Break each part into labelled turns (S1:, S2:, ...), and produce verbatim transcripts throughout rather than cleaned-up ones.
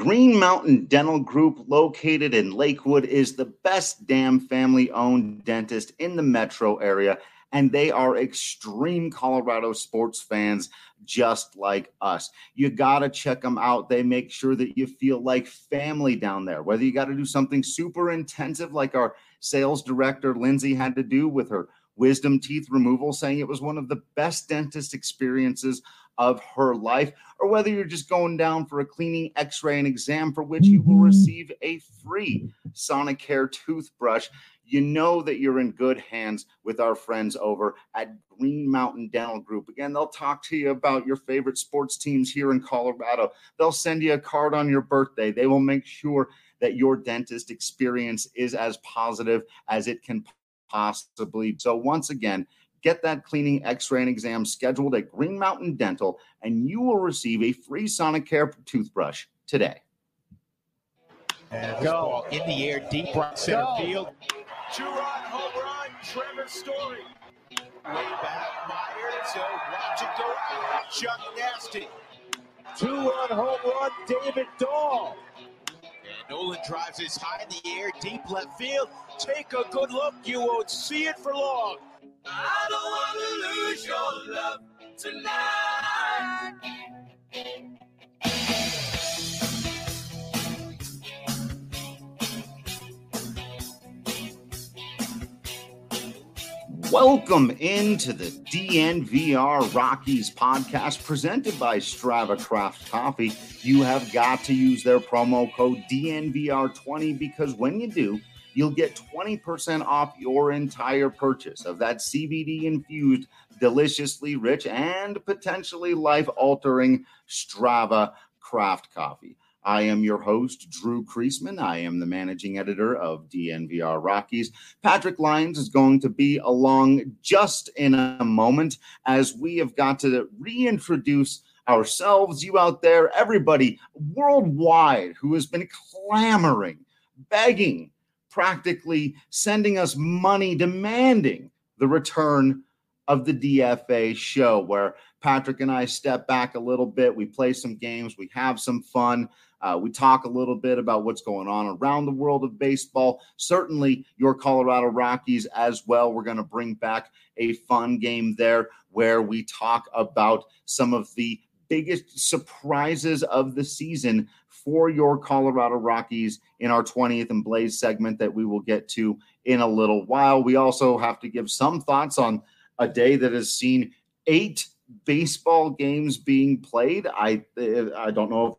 S1: Green Mountain Dental Group, located in Lakewood, is the best damn family-owned dentist in the metro area, and they are extreme Colorado sports fans just like us. You got to check them out. They make sure that you feel like family down there, whether you got to do something super intensive like our sales director, Lindsay, had to do with her wisdom teeth removal, saying it was one of the best dentist experiences of her life, or whether you're just going down for a cleaning, x-ray, and exam for which you will receive a free Sonicare toothbrush. You know that you're in good hands with our friends over at Green Mountain Dental Group. Again, they'll talk to you about your favorite sports teams here in Colorado. They'll send you a card on your birthday. They will make sure that your dentist experience is as positive as it can possibly be. So once again, get that cleaning, x-ray, and exam scheduled at Green Mountain Dental, and you will receive a free Sonicare toothbrush today.
S2: And go. Ball in the air, deep right center go. Field.
S3: Two-run home run, Trevor Story. Way back, Myers, so watch it go out. Chuck Nasty.
S2: Two-run home run, David Dahl.
S3: And Nolan drives this high in the air, deep left field. Take a good look, you won't see it for long. I don't want to lose your love tonight.
S1: Welcome into the D N V R Rockies podcast presented by Strava Craft Coffee. You have got to use their promo code D N V R twenty because when you do, you'll get twenty percent off your entire purchase of that C B D-infused, deliciously rich, and potentially life-altering Strava Craft Coffee. I am your host, Drew Kreisman. I am the managing editor of D N V R Rockies. Patrick Lyons is going to be along just in a moment as we have got to reintroduce ourselves, you out there, everybody worldwide who has been clamoring, begging, practically sending us money, demanding the return of the D F A show, where Patrick and I step back a little bit. We play some games. We have some fun. Uh, we talk a little bit about what's going on around the world of baseball. Certainly your Colorado Rockies as well. We're going to bring back a fun game there where we talk about some of the biggest surprises of the season for your Colorado Rockies in our twentieth and Blaze segment that we will get to in a little while. We also have to give some thoughts on a day that has seen eight baseball games being played. I I don't know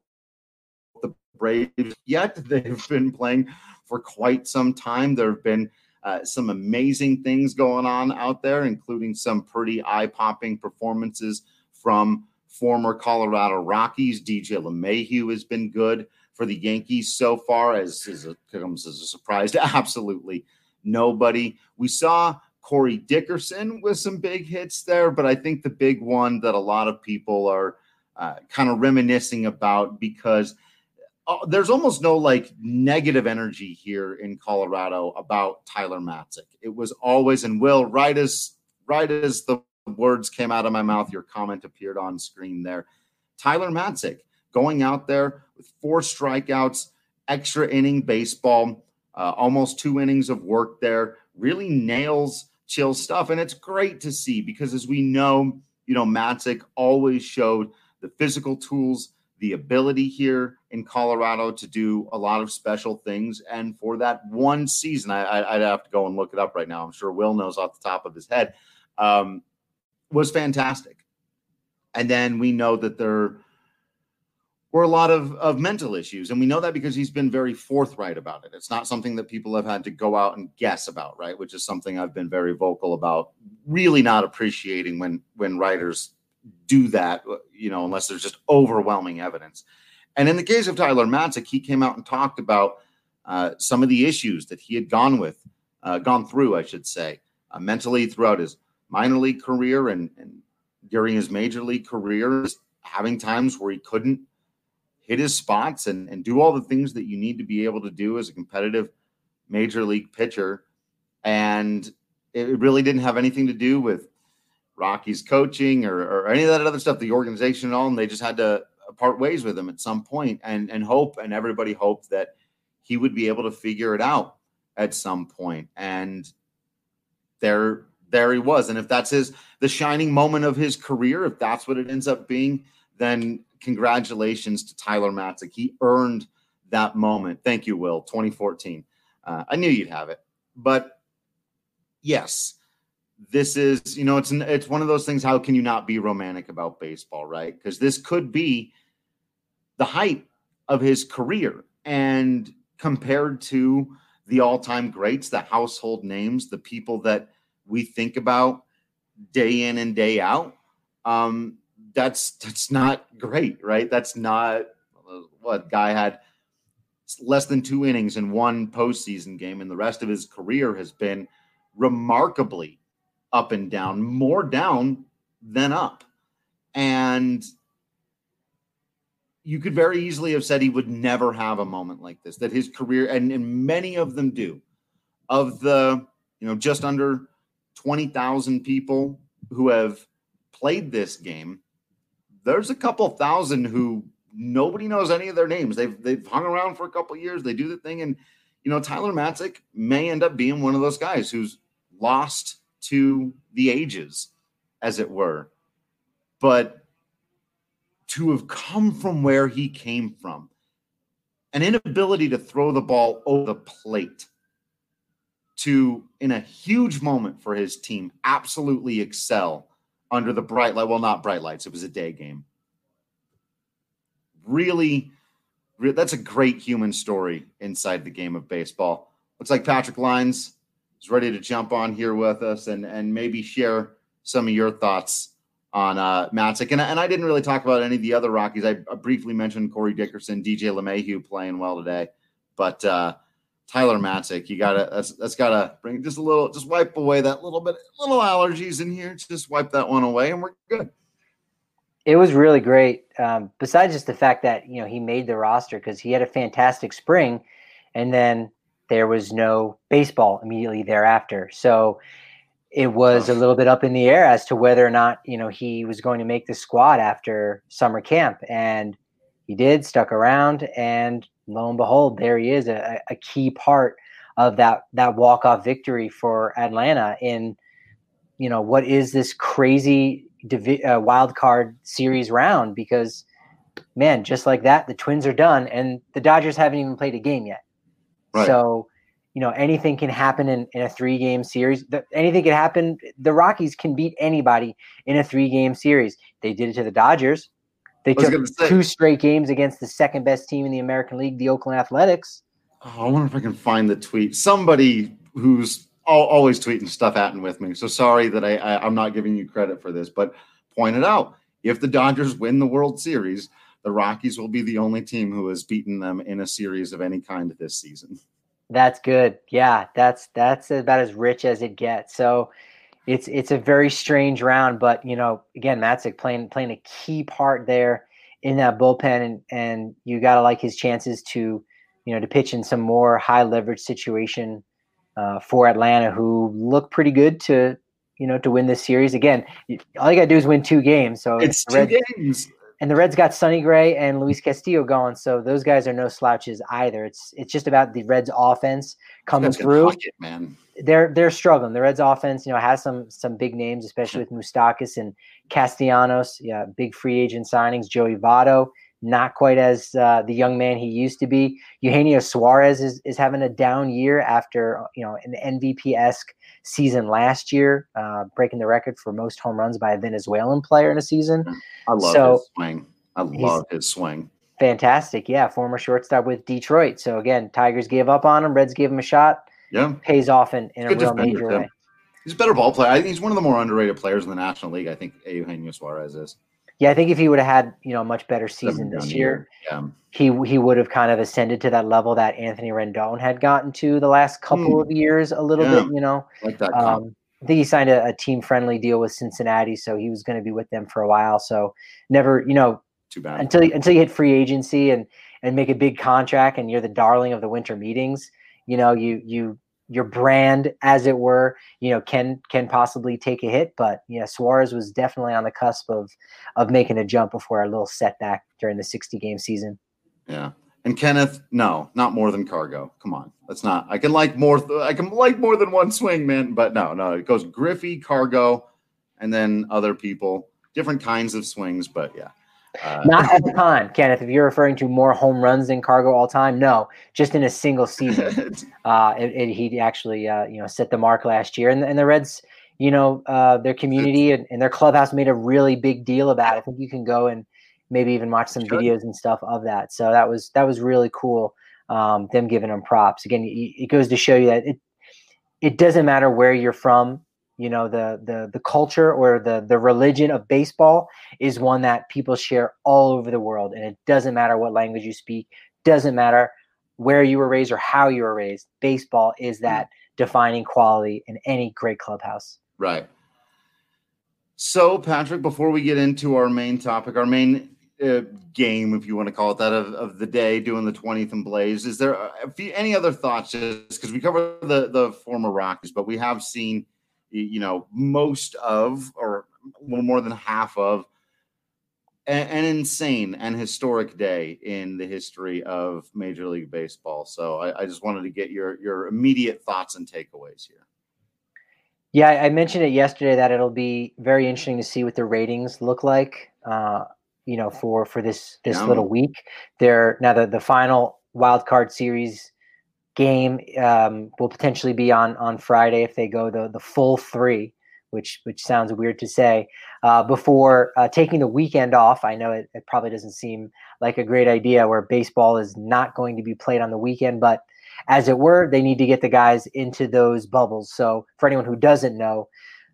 S1: if the Braves yet. They've been playing for quite some time. There have been uh, some amazing things going on out there, including some pretty eye-popping performances from former Colorado Rockies. D J LeMahieu has been good for the Yankees so far, as, as it comes as a surprise to absolutely nobody. We saw Corey Dickerson with some big hits there, but I think the big one that a lot of people are uh, kind of reminiscing about, because uh, there's almost no like negative energy here in Colorado about Tyler Matzek. It was always, and Will, right as right as the words came out of my mouth, your comment appeared on screen there. Tyler Matzek going out there with four strikeouts, extra inning baseball, uh, almost two innings of work there, really nails chill stuff. And it's great to see because, as we know, you know, Matzek always showed the physical tools, the ability here in Colorado to do a lot of special things. And for that one season, I, I, I'd have to go and look it up right now. I'm sure Will knows off the top of his head. Um, was fantastic. And then we know that there were a lot of, of mental issues. And we know that because he's been very forthright about it. It's not something that people have had to go out and guess about, right? Which is something I've been very vocal about, really not appreciating when, when writers do that, you know, unless there's just overwhelming evidence. And in the case of Tyler Matzek, he came out and talked about uh, some of the issues that he had gone with, uh, gone through, I should say, uh, mentally throughout his minor league career and, and during his major league career, having times where he couldn't hit his spots and, and do all the things that you need to be able to do as a competitive major league pitcher. And it really didn't have anything to do with Rockies coaching or, or any of that other stuff, the organization and all. And they just had to part ways with him at some point, and and hope, and everybody hoped that he would be able to figure it out at some point. And there, there he was. And if that's his, the shining moment of his career, if that's what it ends up being, then congratulations to Tyler Matzek. He earned that moment. Thank you, Will. twenty fourteen. Uh, I knew you'd have it, but yes, this is, you know, it's, an, it's one of those things. How can you not be romantic about baseball, right? Because this could be the height of his career. And compared to the all-time greats, the household names, the people that we think about day in and day out, um, that's that's not great, right? That's not what guy had less than two innings in one postseason game, and the rest of his career has been remarkably up and down, more down than up. And you could very easily have said he would never have a moment like this, that his career, and, and many of them do, of the, you know, just under twenty thousand people who have played this game, there's a couple thousand who nobody knows any of their names. They've, they've hung around for a couple of years. They do the thing. And, you know, Tyler Matzek may end up being one of those guys who's lost to the ages, as it were. But to have come from where he came from, an inability to throw the ball over the plate, to, in a huge moment for his team, absolutely excel under the bright light. Well, not bright lights. It was a day game. Really, really, that's a great human story inside the game of baseball. Looks like Patrick Lyons is ready to jump on here with us and, and maybe share some of your thoughts on uh, Matzek. And, and I didn't really talk about any of the other Rockies. I, I briefly mentioned Corey Dickerson, D J LeMahieu playing well today. But uh, Tyler Matzek, you gotta that's, that's gotta bring just a little, just wipe away that little bit, little allergies in here. Just wipe that one away, and we're good.
S4: It was really great. Um, besides just the fact that, you know, he made the roster because he had a fantastic spring, and then there was no baseball immediately thereafter. So it was a little bit up in the air as to whether or not, you know, he was going to make the squad after summer camp. And he did, stuck around, and lo and behold, there he is, a, a key part of that, that walk-off victory for Atlanta in, you know, what is this crazy divi- uh, wild card series round, because, man, just like that, the Twins are done, and the Dodgers haven't even played a game yet. Right. So, you know, anything can happen in, in a three-game series. The, anything can happen. The Rockies can beat anybody in a three-game series. They did it to the Dodgers. They took two straight games against the second-best team in the American League, the Oakland Athletics.
S1: Oh, I wonder if I can find the tweet. Somebody who's always tweeting stuff at and with me. So sorry that I, I, I'm not giving you credit for this, but pointed out, if the Dodgers win the World Series, the Rockies will be the only team who has beaten them in a series of any kind this season.
S4: That's good. Yeah, that's that's about as rich as it gets. So it's it's a very strange round, but, you know, again, Matzek playing playing a key part there in that bullpen, and and you got to like his chances to, you know, to pitch in some more high leverage situation uh, for Atlanta, who look pretty good to, you know, to win this series. Again, all you got to do is win two games. So
S1: it's two Reds, games.
S4: And the Reds got Sonny Gray and Luis Castillo going, so those guys are no slouches either. It's it's just about the Reds offense coming through.
S1: It, man.
S4: They're they're struggling. The Reds offense, you know, has some some big names, especially with Moustakas and Castellanos. Yeah, big free agent signings. Joey Votto, not quite as uh, the young man he used to be. Eugenio Suarez is is having a down year after, you know, an M V P-esque season last year, uh, breaking the record for most home runs by a Venezuelan player in a season.
S1: I love
S4: so,
S1: his swing. I love his swing.
S4: Fantastic. Yeah, former shortstop with Detroit. So, again, Tigers gave up on him. Reds gave him a shot.
S1: Yeah.
S4: Pays off in, in a real major way.
S1: He's a better ball player. I think he's one of the more underrated players in the National League. I think Eugenio Suarez is.
S4: Yeah, I think if he would have had, you know, a much better season this year,
S1: yeah.
S4: he he would have kind of ascended to that level that Anthony Rendon had gotten to the last couple mm. of years a little yeah. bit, you know.
S1: Like that.
S4: Um, I think he signed a, a team-friendly deal with Cincinnati, so he was going to be with them for a while. So never, you know,
S1: too bad
S4: until until you hit free agency and and make a big contract and you're the darling of the winter meetings. You know, you you your brand, as it were, you know, can can possibly take a hit. But yeah, Suarez was definitely on the cusp of of making a jump before a little setback during the sixty game season.
S1: Yeah. And Kenneth, no, not more than Cargo. Come on. That's not. I can like more th- I can like more than one swing, man, but no, no. It goes Griffey, Cargo, and then other people. Different kinds of swings, but yeah. Uh,
S4: Not all time, Kenneth. If you're referring to more home runs than Cargo all time, no, just in a single season. uh, it, it, he actually, uh, you know, set the mark last year, and, and the Reds, you know, uh, their community and, and their clubhouse made a really big deal about it. I think you can go and maybe even watch some videos and stuff of that. So that was that was really cool. Um, them giving them props again. It, it goes to show you that it it doesn't matter where you're from. You know, the the the culture or the the religion of baseball is one that people share all over the world, and it doesn't matter what language you speak, doesn't matter where you were raised or how you were raised. Baseball is that defining quality in any great clubhouse.
S1: Right. So, Patrick, before we get into our main topic, our main uh, game, if you want to call it that, of, of the day, doing the twentieth and Blaze, is there a few, any other thoughts? Just because we cover the the former Rockies, but we have seen, you know, most of, or a little more than half of, an, an insane and historic day in the history of Major League Baseball. So I, I just wanted to get your your immediate thoughts and takeaways here.
S4: Yeah, I mentioned it yesterday that it'll be very interesting to see what the ratings look like, uh, you know, for for this this
S1: Yeah.
S4: little week. They're now the the final wild card series game um, will potentially be on on Friday if they go the the full three, which which sounds weird to say. Uh, before uh, taking the weekend off, I know it, it probably doesn't seem like a great idea where baseball is not going to be played on the weekend, but as it were, they need to get the guys into those bubbles. So for anyone who doesn't know,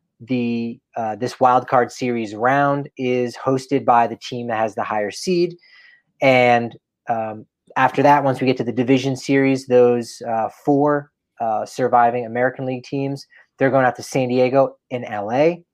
S4: the uh, this wild card series round is hosted by the team that has the higher seed, and um, after that, once we get to the division series, those uh, four uh, surviving American League teams, they're going out to San Diego and L A,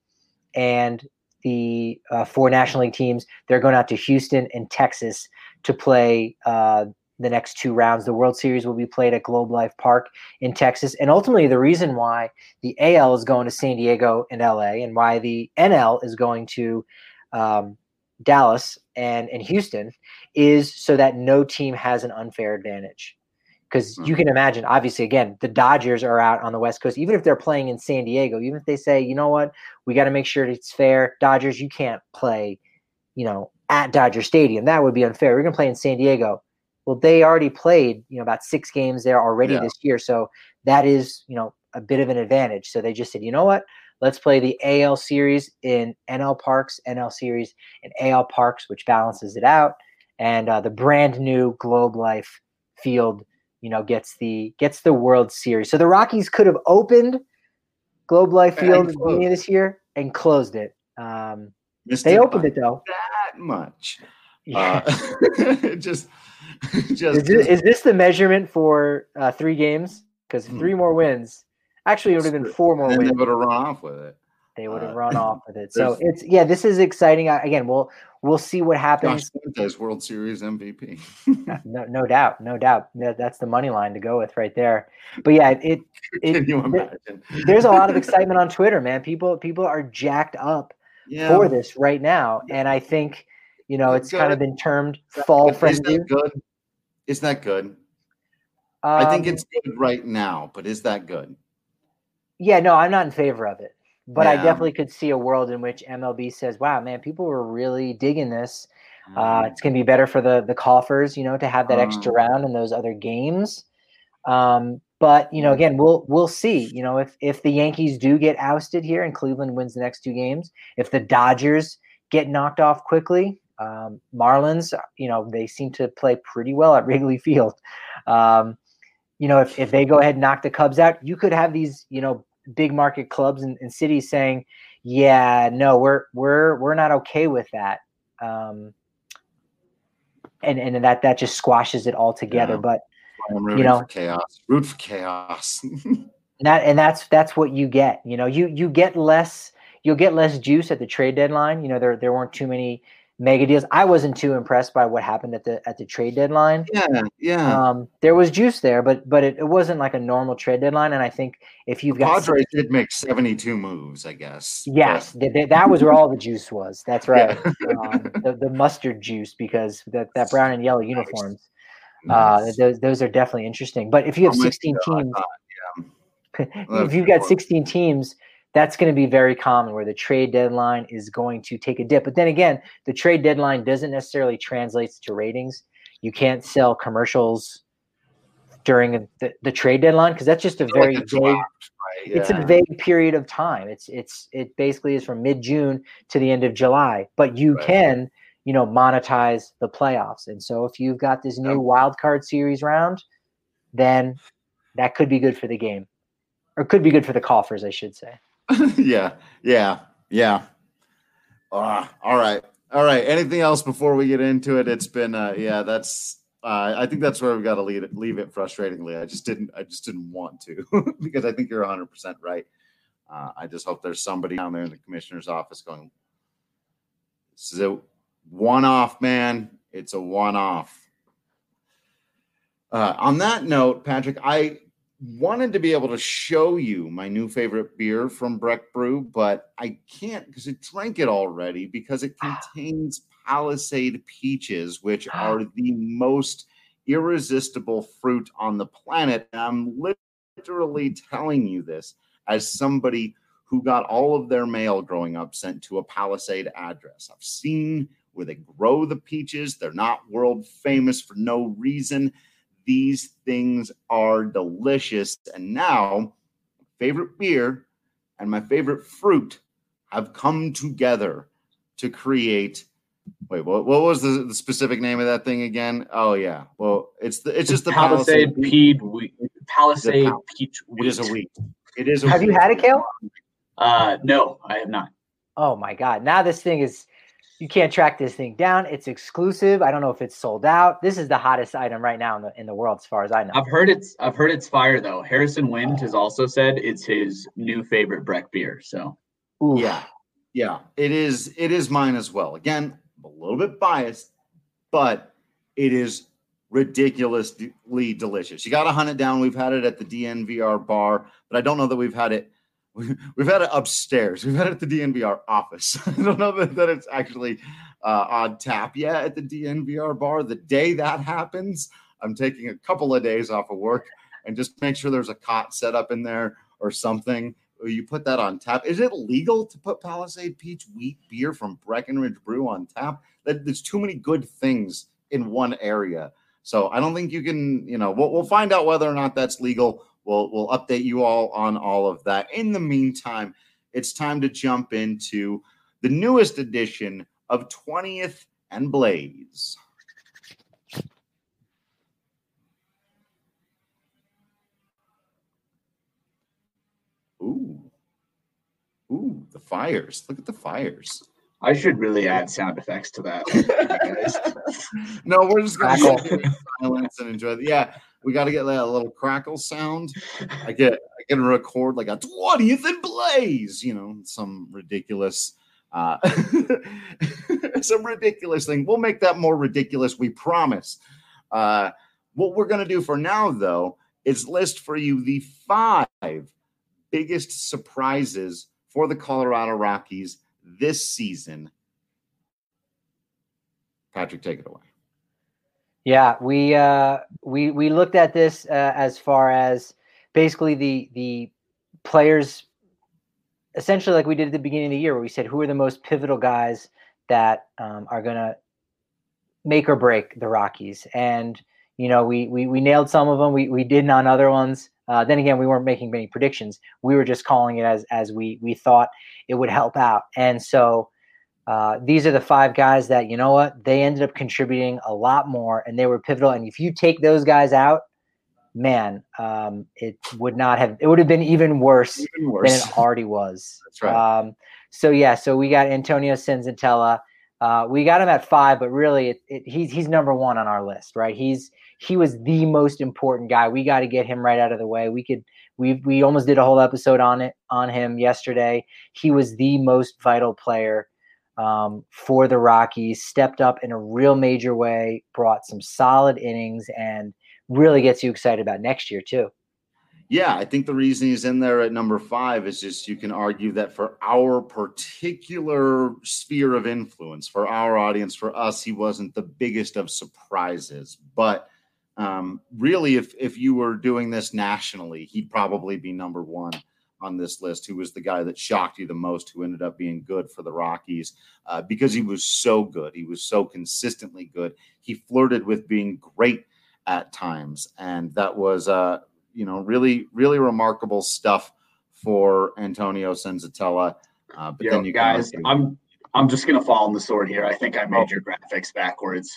S4: and the uh, four National League teams, they're going out to Houston and Texas to play uh, the next two rounds. The World Series will be played at Globe Life Park in Texas, and ultimately the reason why the A L is going to San Diego and L A, and why the N L is going to um, Dallas and, and Houston is so that no team has an unfair advantage. Because you can imagine, obviously, again, the Dodgers are out on the West Coast. Even if they're playing in San Diego, even if they say, you know what, we got to make sure it's fair. Dodgers, you can't play, you know, at Dodger Stadium. That would be unfair. We're going to play in San Diego. Well, they already played, you know, about six games there already
S1: Yeah.
S4: this year. So that is, you know, a bit of an advantage. So they just said, you know what, let's play the A L series in N L Parks, N L series in A L Parks, which balances it out. And uh, the brand new Globe Life field, you know, gets the gets the World Series. So the Rockies could have opened Globe Life Field at the beginning of this year and closed it. Um,
S1: Missed
S4: they
S1: it
S4: opened
S1: by
S4: it though.
S1: that much.
S4: Yeah.
S1: Uh, just, just
S4: is, this, is this the measurement for uh, three games? Because
S1: Hmm.
S4: three more wins, actually, it would have been four more
S1: and then
S4: wins.
S1: they would have run off with it.
S4: They would have
S1: uh,
S4: run off with it. So
S1: there's-
S4: it's yeah, this is exciting. Uh, Again, we'll we'll see what
S1: Josh
S4: happens.
S1: Fuentes, World Series M V P.
S4: No, no doubt, no doubt. That, that's the money line to go with right there. But yeah, it, it
S1: Can you
S4: there-
S1: imagine?
S4: there's a lot of excitement on Twitter, man. People people are jacked up
S1: Yeah.
S4: for this right now, and I think you know
S1: Is it
S4: it's kind of
S1: good?
S4: been termed fall
S1: But is
S4: frenzy.
S1: that good? Is that good? I think
S4: Um,
S1: it's good right now, but is that good?
S4: Yeah, no, I'm not in favor of it. But I
S1: Yeah.
S4: definitely could see a world in which M L B says, wow, man, people were really digging this. Uh, it's going to be better for the the coffers, you know, to have that extra
S1: Um,
S4: round in those other games. Um, but, you know, again, we'll we'll see. You know, if if the Yankees do get ousted here and Cleveland wins the next two games, if the Dodgers get knocked off quickly, um, Marlins, you know, they seem to play pretty well at Wrigley Field. Um, you know, if, if they go ahead and knock the Cubs out, you could have these, you know, big market clubs and, and cities saying, yeah, no, we're we're we're not okay with that. Um, and, and that that just squashes it all together.
S1: Yeah.
S4: But
S1: I'm rooting
S4: you know,
S1: for chaos. Root for chaos.
S4: and that and that's that's what you get. You know, you you get less you'll get less juice at the trade deadline. You know, there there weren't too many mega deals. I wasn't too impressed by what happened at the at the trade deadline.
S1: Yeah, yeah.
S4: Um, there was juice there, but but it, it wasn't like a normal trade deadline. And I think if you've
S1: the
S4: got
S1: Padres
S4: sixteen
S1: did make seventy-two moves, I guess.
S4: Yes,
S1: but...
S4: th- th- that was where all the juice was. That's right.
S1: Yeah.
S4: um, the, the mustard juice, because that, that brown and yellow uniforms,
S1: nice.
S4: uh, those those are definitely interesting. But if you have
S1: oh
S4: sixteen
S1: God,
S4: teams,
S1: yeah.
S4: if you've got sixteen teams, that's going to be very common where the trade deadline is going to take a dip. But then again, the trade deadline doesn't necessarily translate to ratings. You can't sell commercials during the, the trade deadline because that's just a very
S1: like a
S4: vague.
S1: draft, right? yeah.
S4: It's a vague period of time. It's it's it basically is from mid-June to the end of July. But you
S1: right.
S4: can, you know, monetize the playoffs. And so if you've got this new
S1: yep.
S4: wild card series round, then that could be good for the game, or could be good for the coffers, I should say.
S1: yeah, yeah, yeah. Uh, all right, all right. Anything else before we get into it? It's been, uh, yeah, that's. Uh, I think that's where we've got to leave it. Leave it frustratingly. I just didn't. I just didn't want to because I think you're one hundred percent right. Uh, I just hope there's somebody down there in the commissioner's office going, "This is a one-off, man. It's a one-off." Uh, on that note, Patrick, I wanted to be able to show you my new favorite beer from Breck Brew, but I can't because I drank it already because it contains Palisade peaches, which are the most irresistible fruit on the planet. And I'm literally telling you this as somebody who got all of their mail growing up sent to a Palisade address. I've seen where they grow the peaches. They're not world famous for no reason. These things are delicious. And now, favorite beer and my favorite fruit have come together to create. Wait, what, what was the, the specific name of that thing again? Oh, yeah. Well, it's the it's just the
S5: Palisade, Palisade Peach Wheat. Palisade
S1: Pal-
S5: Peach Wheat.
S1: It is a wheat. It is a
S4: Have
S1: wheat.
S4: you had it, Kale?
S5: Uh, no, I have not.
S4: Oh, my God. Now this thing is – you can't track this thing down. It's exclusive. I don't know if it's sold out. This is the hottest item right now in the in the world as far as I know.
S5: I've heard it's I've heard it's fire, though. Harrison Wind has also said it's his new favorite Breck beer. So,
S4: Oof.
S1: Yeah. Yeah. It is, it is mine as well. Again, a little bit biased, but it is ridiculously delicious. You got to hunt it down. We've had it at the D N V R bar, but I don't know that we've had it. We've had it upstairs. We've had it at the D N V R office. I don't know that, that it's actually uh, on tap yet at the D N V R bar. The day that happens, I'm taking a couple of days off of work and just make sure there's a cot set up in there or something. You put that on tap. Is it legal to put Palisade Peach Wheat beer from Breckenridge Brew on tap? That there's too many good things in one area. So I don't think you can, you know, we'll, we'll find out whether or not that's legal. We'll, we'll update you all on all of that. In the meantime, it's time to jump into the newest edition of twentieth and Blaze. Ooh. Ooh, the fires. Look at the fires.
S5: I should really add sound effects to that.
S1: No, we're just going to silence and enjoy the, yeah, we got to get that little crackle sound. I get, I can record like a twentieth and Blaze, you know, some ridiculous, uh, some ridiculous thing. We'll make that more ridiculous. We promise. Uh, what we're going to do for now, though, is list for you the five biggest surprises for the Colorado Rockies this season. Patrick, take it away.
S4: Yeah, we uh, we we looked at this uh, as far as basically the the players, essentially like we did at the beginning of the year, where we said who are the most pivotal guys that um, are going to make or break the Rockies, and you know we we we nailed some of them. We we didn't on other ones. Uh, then again, we weren't making many predictions. We were just calling it as as we we thought it would help out. And so uh, these are the five guys that, you know what, they ended up contributing a lot more, and they were pivotal. And if you take those guys out, man, um, it would not have – it would have been even worse, even worse than it already was.
S1: That's right.
S4: Um, so, yeah, so we got Antonio Senzatella. Uh, we got him at five, but really it, it, he's he's number one on our list, right? He's he was the most important guy. We got to get him right out of the way. We could we we almost did a whole episode on it on him yesterday. He was the most vital player um, for the Rockies, stepped up in a real major way, brought some solid innings, and really gets you excited about next year too.
S1: Yeah, I think the reason he's in there at number five is just you can argue that for our particular sphere of influence, for our audience, for us, he wasn't the biggest of surprises. But um, really, if if you were doing this nationally, he'd probably be number one on this list. Who was the guy that shocked you the most, who ended up being good for the Rockies uh, because he was so good. He was so consistently good. He flirted with being great at times. And that was uh, – you know, really, really remarkable stuff for Antonio Senzatella. Uh, but
S5: Yo,
S1: then you
S5: guys,
S1: can
S5: I'm I'm just gonna fall on the sword here. I think I made your graphics backwards.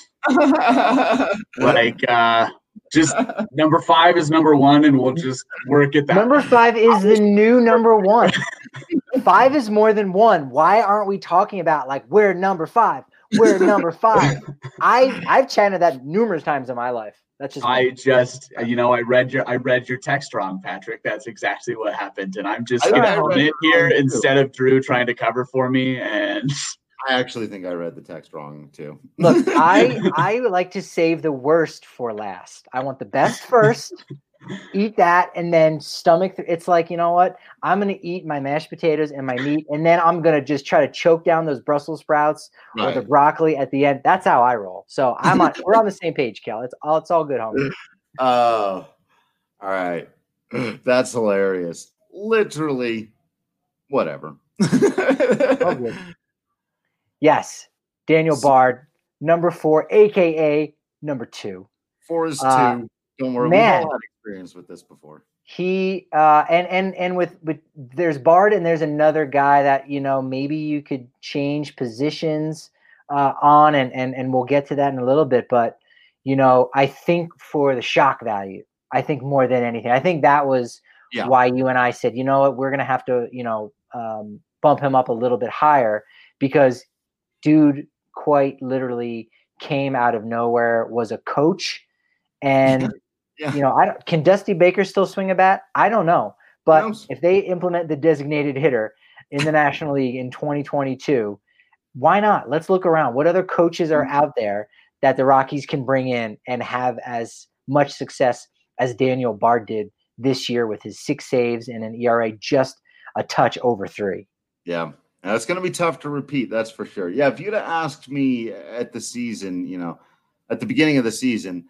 S5: like, uh, just number five is number one, and we'll just work it that.
S4: Number five is the new number one. Five is more than one. Why aren't we talking about like we're number five? We're number five. I I've chanted that numerous times in my life. That's just
S5: I just, you know, I read your I read your text wrong, Patrick. That's exactly what happened, and I'm just gonna own it here instead of Drew trying to cover for me. And
S1: I actually think I read the text wrong too.
S4: Look, I I like to save the worst for last. I want the best first. Eat that and then stomach. Th- it's like, you know what? I'm going to eat my mashed potatoes and my meat, and then I'm going to just try to choke down those Brussels sprouts right. or the broccoli at the end. That's how I roll. So I'm on. We're on the same page, Kel. It's all. It's all good, homie.
S1: Oh, all right. That's hilarious. Literally, whatever.
S4: Oh, good. Yes, Daniel Bard, number four, aka number two.
S1: Four is two.
S4: Uh,
S1: Don't worry,
S4: man.
S1: we've all had experience with this before.
S4: He uh, and and and with with there's Bard and there's another guy that you know maybe you could change positions uh, on and and and we'll get to that in a little bit. But you know, I think for the shock value, I think more than anything, I think that was yeah. why you and I said, you know what, we're gonna have to you know um, bump him up a little bit higher because dude quite literally came out of nowhere, was a coach, and. Yeah. You know, I don't, can Dusty Baker still swing a bat? I don't know. But no. if they implement the designated hitter in the National League in twenty twenty-two, why not? Let's look around. What other coaches are out there that the Rockies can bring in and have as much success as Daniel Bard did this year with his six saves and an E R A just a touch over three?
S1: Yeah. Now, it's going to be tough to repeat. That's for sure. Yeah. If you'd have asked me at the season, you know, at the beginning of the season,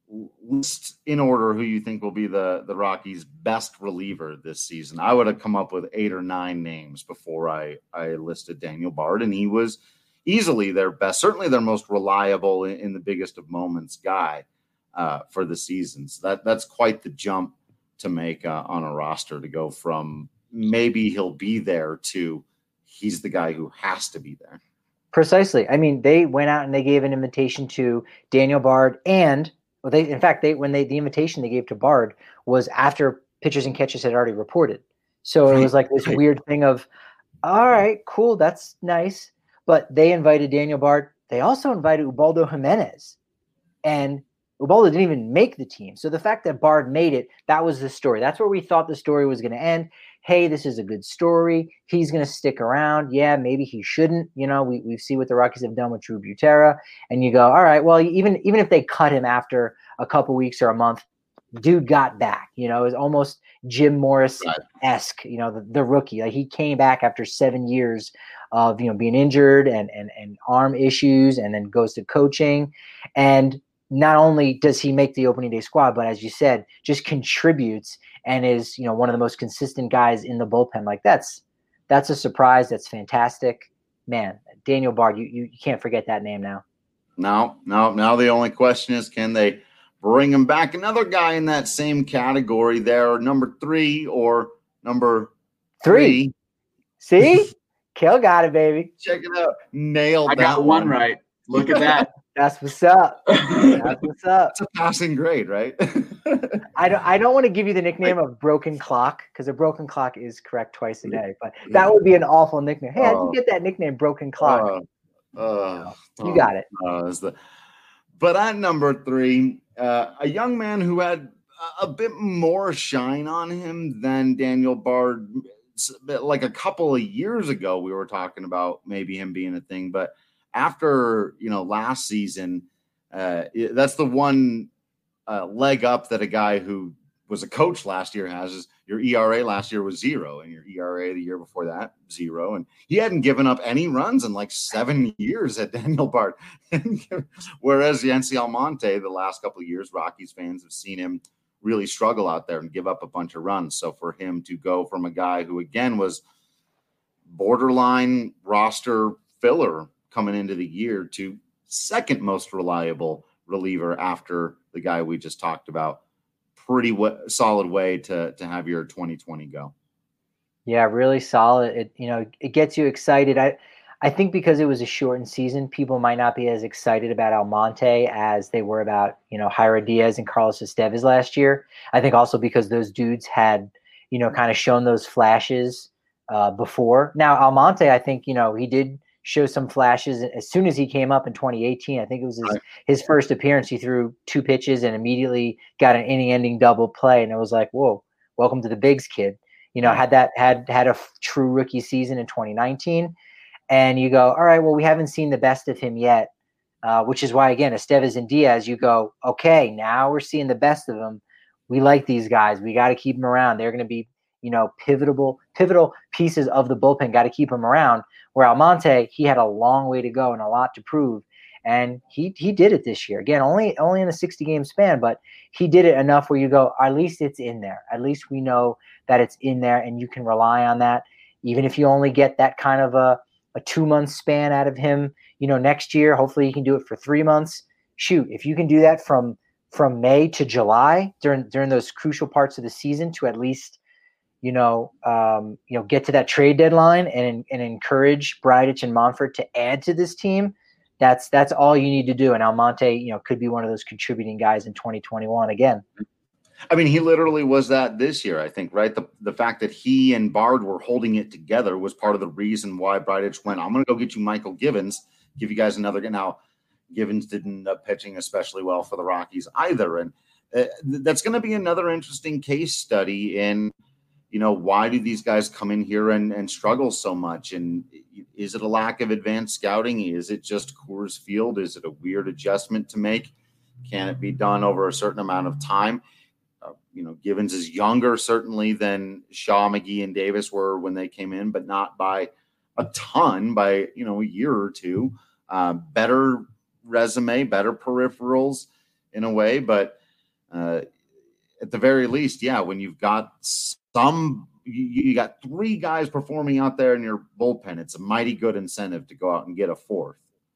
S1: list in order who you think will be the, the Rockies' best reliever this season, I would have come up with eight or nine names before I, I listed Daniel Bard, and he was easily their best, certainly their most reliable in, in the biggest of moments guy uh, for the season. So that, that's quite the jump to make uh, on a roster to go from maybe he'll be there to he's the guy who has to be there.
S4: Precisely. I mean, they went out and they gave an invitation to Daniel Bard and Well, they in fact they when they the invitation they gave to Bard was after pitchers and catchers had already reported. So it was like this weird thing of, all right, cool, that's nice. But they invited Daniel Bard. They also invited Ubaldo Jimenez, and Ubaldo didn't even make the team. So the fact that Bard made it, that was the story. That's where we thought the story was going to end. Hey, this is a good story. He's going to stick around. Yeah, maybe he shouldn't. You know, we we see what the Rockies have done with Drew Butera, and you go, all right, well, even even if they cut him after a couple weeks or a month, dude got back. You know, it was almost Jim Morris-esque. You know, the, the rookie. Like he came back after seven years of you know being injured and and and arm issues, and then goes to coaching, and not only does he make the opening day squad, but as you said, just contributes and is, you know, one of the most consistent guys in the bullpen. Like that's, that's a surprise. That's fantastic, man. Daniel Bard, you, you, you can't forget that name now.
S1: No, no. Now the only question is, can they bring him back? Another guy in that same category there, number three or number three.
S4: three. See? Kel got it, baby.
S1: Check it out. Nailed
S5: I
S1: that
S5: got one right. Look at that.
S4: That's what's up. That's what's up.
S1: It's a passing grade, right?
S4: I don't I don't want to give you the nickname of broken clock because a broken clock is correct twice a day, but that would be an awful nickname. Hey, uh, how'd you get that nickname, broken clock?
S1: Uh, uh,
S4: you got it.
S1: Uh, the, but at number three, uh, a young man who had a bit more shine on him than Daniel Bard like a couple of years ago, we were talking about maybe him being a thing, but after, you know, last season, uh, that's the one uh, leg up that a guy who was a coach last year has is your E R A last year was zero and your E R A the year before that, zero. And he hadn't given up any runs in like seven years at Daniel Bard. Whereas Yency Almonte, the last couple of years, Rockies fans have seen him really struggle out there and give up a bunch of runs. So for him to go from a guy who, again, was borderline roster filler coming into the year to second most reliable reliever after the guy we just talked about, pretty w- solid way to to have your twenty twenty go.
S4: Yeah, really solid. It, you know, it gets you excited. I I think because it was a shortened season, people might not be as excited about Almonte as they were about, you know, Jairo Diaz and Carlos Estevez last year. I think also because those dudes had, you know, kind of shown those flashes uh, before. Now, Almonte, I think, you know, he did show some flashes as soon as he came up in twenty eighteen. I think it was his,
S1: right.
S4: his first appearance. He threw two pitches and immediately got an inning-ending double play. And it was like, whoa, welcome to the bigs, kid. You know,
S1: Right.
S4: had that had had a f- true rookie season in twenty nineteen. And you go, all right, well, we haven't seen the best of him yet, uh, which is why, again, Estevez and Diaz, you go, okay, now we're seeing the best of them. We like these guys. We got to keep them around. They're going to be, you know, pivotal, pivotal pieces of the bullpen. Got to keep them around. Where Almonte, he had a long way to go and a lot to prove. And he he did it this year. Again, only only in a sixty-game span, but he did it enough where you go, at least it's in there. At least we know that it's in there and you can rely on that. Even if you only get that kind of a a two-month span out of him, you know, next year, hopefully you can do it for three months. Shoot, if you can do that from from May to July during during those crucial parts of the season to at least, you know, um, you know, get to that trade deadline and and encourage Bridich and Monfort to add to this team, that's that's all you need to do. And Almonte, you know, could be one of those contributing guys in twenty twenty-one again.
S1: I mean, he literally was that this year, I think, right? The the fact that he and Bard were holding it together was part of the reason why Bridich went, I'm going to go get you Michael Givens, give you guys another – now, Givens didn't end up pitching especially well for the Rockies either. And uh, that's going to be another interesting case study in, you know, why do these guys come in here and, and struggle so much? And is it a lack of advanced scouting? Is it just Coors Field? Is it a weird adjustment to make? Can it be done over a certain amount of time? Uh, you know, Givens is younger certainly than Shaw, McGee, and Davis were when they came in, but not by a ton, by, you know, a year or two. Uh, better resume, better peripherals in a way, but uh, at the very least, yeah, when you've got some, you, you got three guys performing out there in your bullpen, it's a mighty good incentive to go out and get a fourth.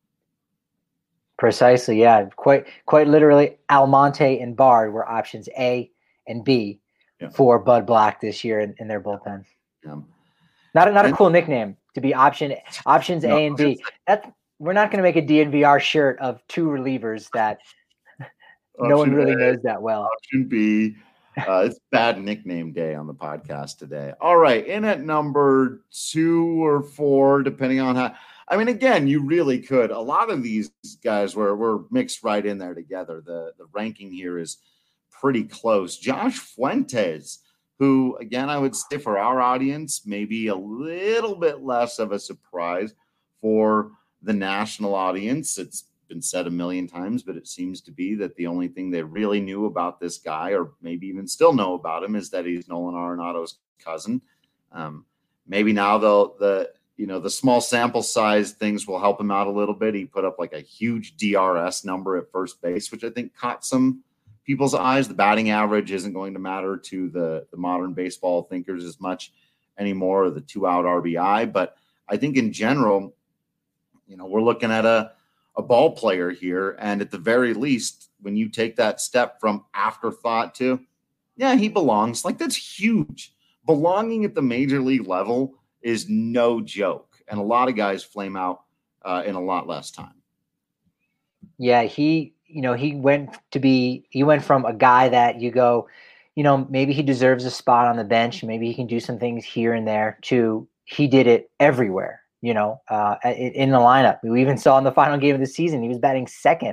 S4: Precisely, yeah. Quite quite literally, Almonte and Bard were options A and B
S1: yeah.
S4: for Bud Black this year in, in their bullpen.
S1: Yeah.
S4: Not a, not a
S1: and,
S4: cool nickname to be option options no, A and B. That we're not going to make a D N V R shirt of two relievers that no one really A, knows that well.
S1: Option B. Uh, it's bad nickname day on the podcast today. All right, in at number two or four, depending on how. I mean, again, you really could. A lot of these guys were were mixed right in there together. The the ranking here is pretty close. Josh Fuentes, who, again, I would say for our audience, maybe a little bit less of a surprise. For the national audience, it's been said a million times, but it seems to be that the only thing they really knew about this guy, or maybe even still know about him, is that he's Nolan Arenado's cousin. Um, maybe now they'll the you know the small sample size things will help him out a little bit. He put up like a huge D R S number at first base, which I think caught some people's eyes. The batting average isn't going to matter to the, the modern baseball thinkers as much anymore, or the two-out R B I. But I think in general, you know, we're looking at a, a ball player here. And at the very least, when you take that step from afterthought to, yeah, he belongs, like that's huge. Belonging at the major league level is no joke. And a lot of guys flame out uh, in a lot less time.
S4: Yeah, he, you know, he went to be, he went from a guy that you go, you know, maybe he deserves a spot on the bench. Maybe he can do some things here and there, to he did it everywhere, you know, uh, in, in the lineup. We even saw in the final game of the season, he was batting second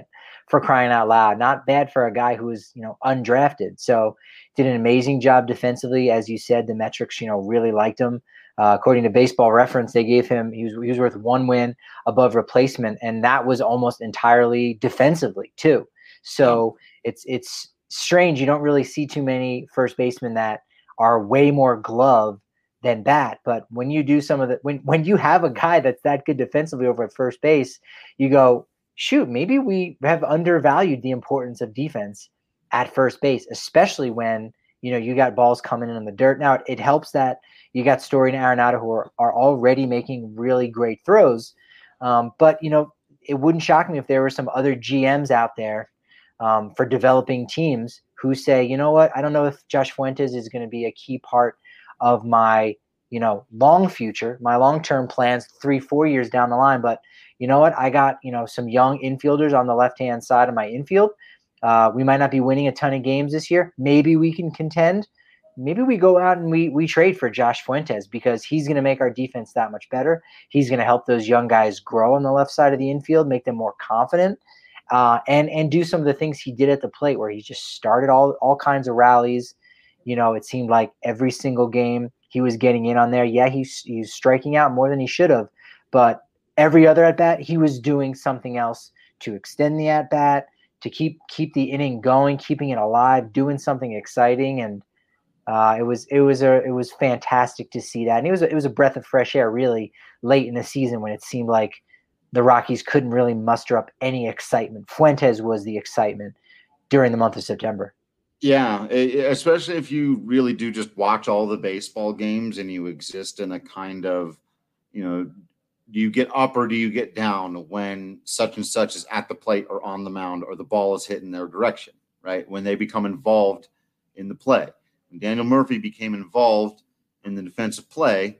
S4: for crying out loud. Not bad for a guy who was, you know, undrafted. So did an amazing job defensively. As you said, the metrics, you know, really liked him. Uh, according to Baseball Reference, they gave him, he was, he was worth one win above replacement. And that was almost entirely defensively too. So yeah. it's, it's strange. You don't really see too many first basemen that are way more glove than bat. But when you do some of the, when, when you have a guy that's that good defensively over at first base, you go, shoot, maybe we have undervalued the importance of defense at first base, especially when, you know, you got balls coming in, in the dirt. Now, it helps that you got Story and Arenado who are, are already making really great throws. Um, but, you know, it wouldn't shock me if there were some other G Ms out there um, for developing teams who say, you know what, I don't know if Josh Fuentes is going to be a key part of my, you know, long future, my long-term plans, three, four years down the line. But you know what, I got, you know, some young infielders on the left-hand side of my infield. Uh, we might not be winning a ton of games this year. Maybe we can contend. Maybe we go out and we we trade for Josh Fuentes because he's going to make our defense that much better. He's going to help those young guys grow on the left side of the infield, make them more confident, uh, and and do some of the things he did at the plate where he just started all all kinds of rallies. You know, it seemed like every single game he was getting in on there. Yeah, he's he's striking out more than he should have, but every other at bat he was doing something else to extend the at bat, to keep keep the inning going, keeping it alive, doing something exciting, and uh, it was it was a it was fantastic to see that. And it was a, it was a breath of fresh air, really, late in the season when it seemed like the Rockies couldn't really muster up any excitement. Fuentes was the excitement during the month of September.
S1: Yeah, especially if you really do just watch all the baseball games and you exist in a kind of, you know, do you get up or do you get down when such and such is at the plate or on the mound or the ball is hit in their direction, right? When they become involved in the play. When Daniel Murphy became involved in the defensive play,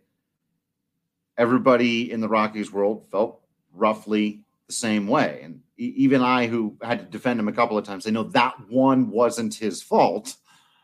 S1: everybody in the Rockies world felt roughly the same way. And even I, who had to defend him a couple of times, I know that one wasn't his fault.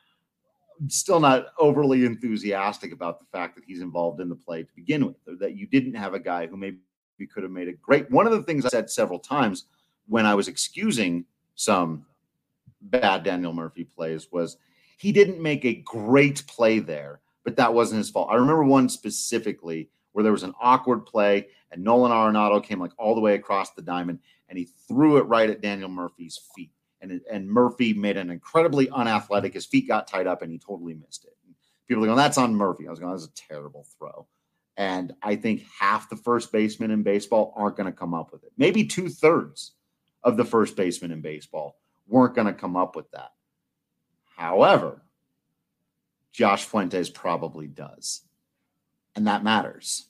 S1: I'm still not overly enthusiastic about the fact that he's involved in the play to begin with, or that you didn't have a guy who maybe could have made a great. One of the things I said several times when I was excusing some bad Daniel Murphy plays was he didn't make a great play there, but that wasn't his fault. I remember one specifically where there was an awkward play and Nolan Arenado came like all the way across the diamond and he threw it right at Daniel Murphy's feet. And, it, and Murphy made an incredibly unathletic. His feet got tied up and he totally missed it. And people are going, that's on Murphy. I was going, that's a terrible throw. And I think half the first basemen in baseball aren't going to come up with it. Maybe two thirds of the first basemen in baseball weren't going to come up with that. However, Josh Fuentes probably does. And that matters.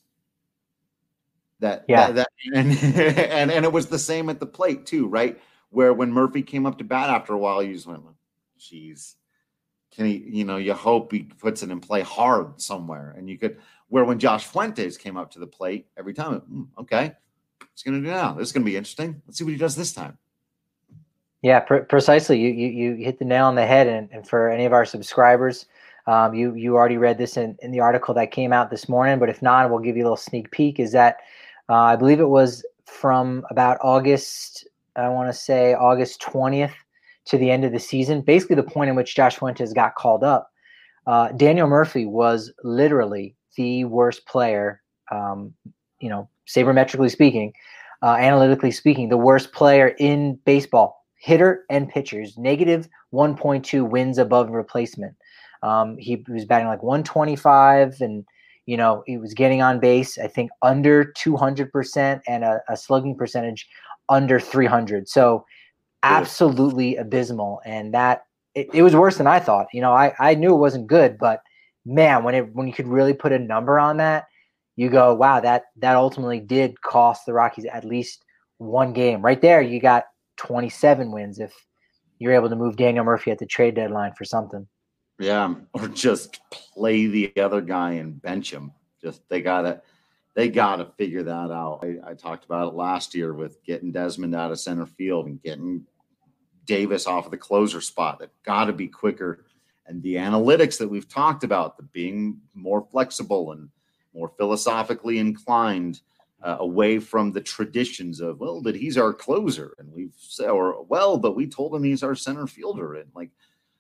S1: That,
S4: yeah.
S1: that, that and, and, and it was the same at the plate too, right? Where when Murphy came up to bat after a while, you just went, geez, can he, you know, you hope he puts it in play hard somewhere. And you could, where when Josh Fuentes came up to the plate every time, mm, okay, what's he going to do now? This is going to be interesting. Let's see what he does this time.
S4: Yeah, pr- precisely. You, you you hit the nail on the head. And, and for any of our subscribers, um, you you already read this in, in the article that came out this morning. But if not, we'll give you a little sneak peek. Is that uh, I believe it was from about August, I want to say August twentieth to the end of the season, basically the point in which Josh Fuentes got called up. Uh, Daniel Murphy was literally the worst player, um, you know, sabermetrically speaking, uh, analytically speaking, the worst player in baseball. Hitter and pitchers, negative one point two wins above replacement. Um, he was batting like one twenty-five and, you know, he was getting on base, I think, under two hundred percent and a, a slugging percentage under three hundred. So absolutely abysmal. And that it, it was worse than I thought. You know, I, I knew it wasn't good, but man, when it when you could really put a number on that, you go, wow, that that ultimately did cost the Rockies at least one game. Right there, you got twenty-seven wins if you're able to move Daniel Murphy at the trade deadline for something.
S1: Yeah, or just play the other guy and bench him. Just they gotta they gotta figure that out. I, I talked about it last year with getting Desmond out of center field and getting Davis off of the closer spot. They've got to be quicker. And the analytics that we've talked about, the being more flexible and more philosophically inclined, uh, away from the traditions of, well, but he's our closer, and we've said, or well, but we told him he's our center fielder, and like,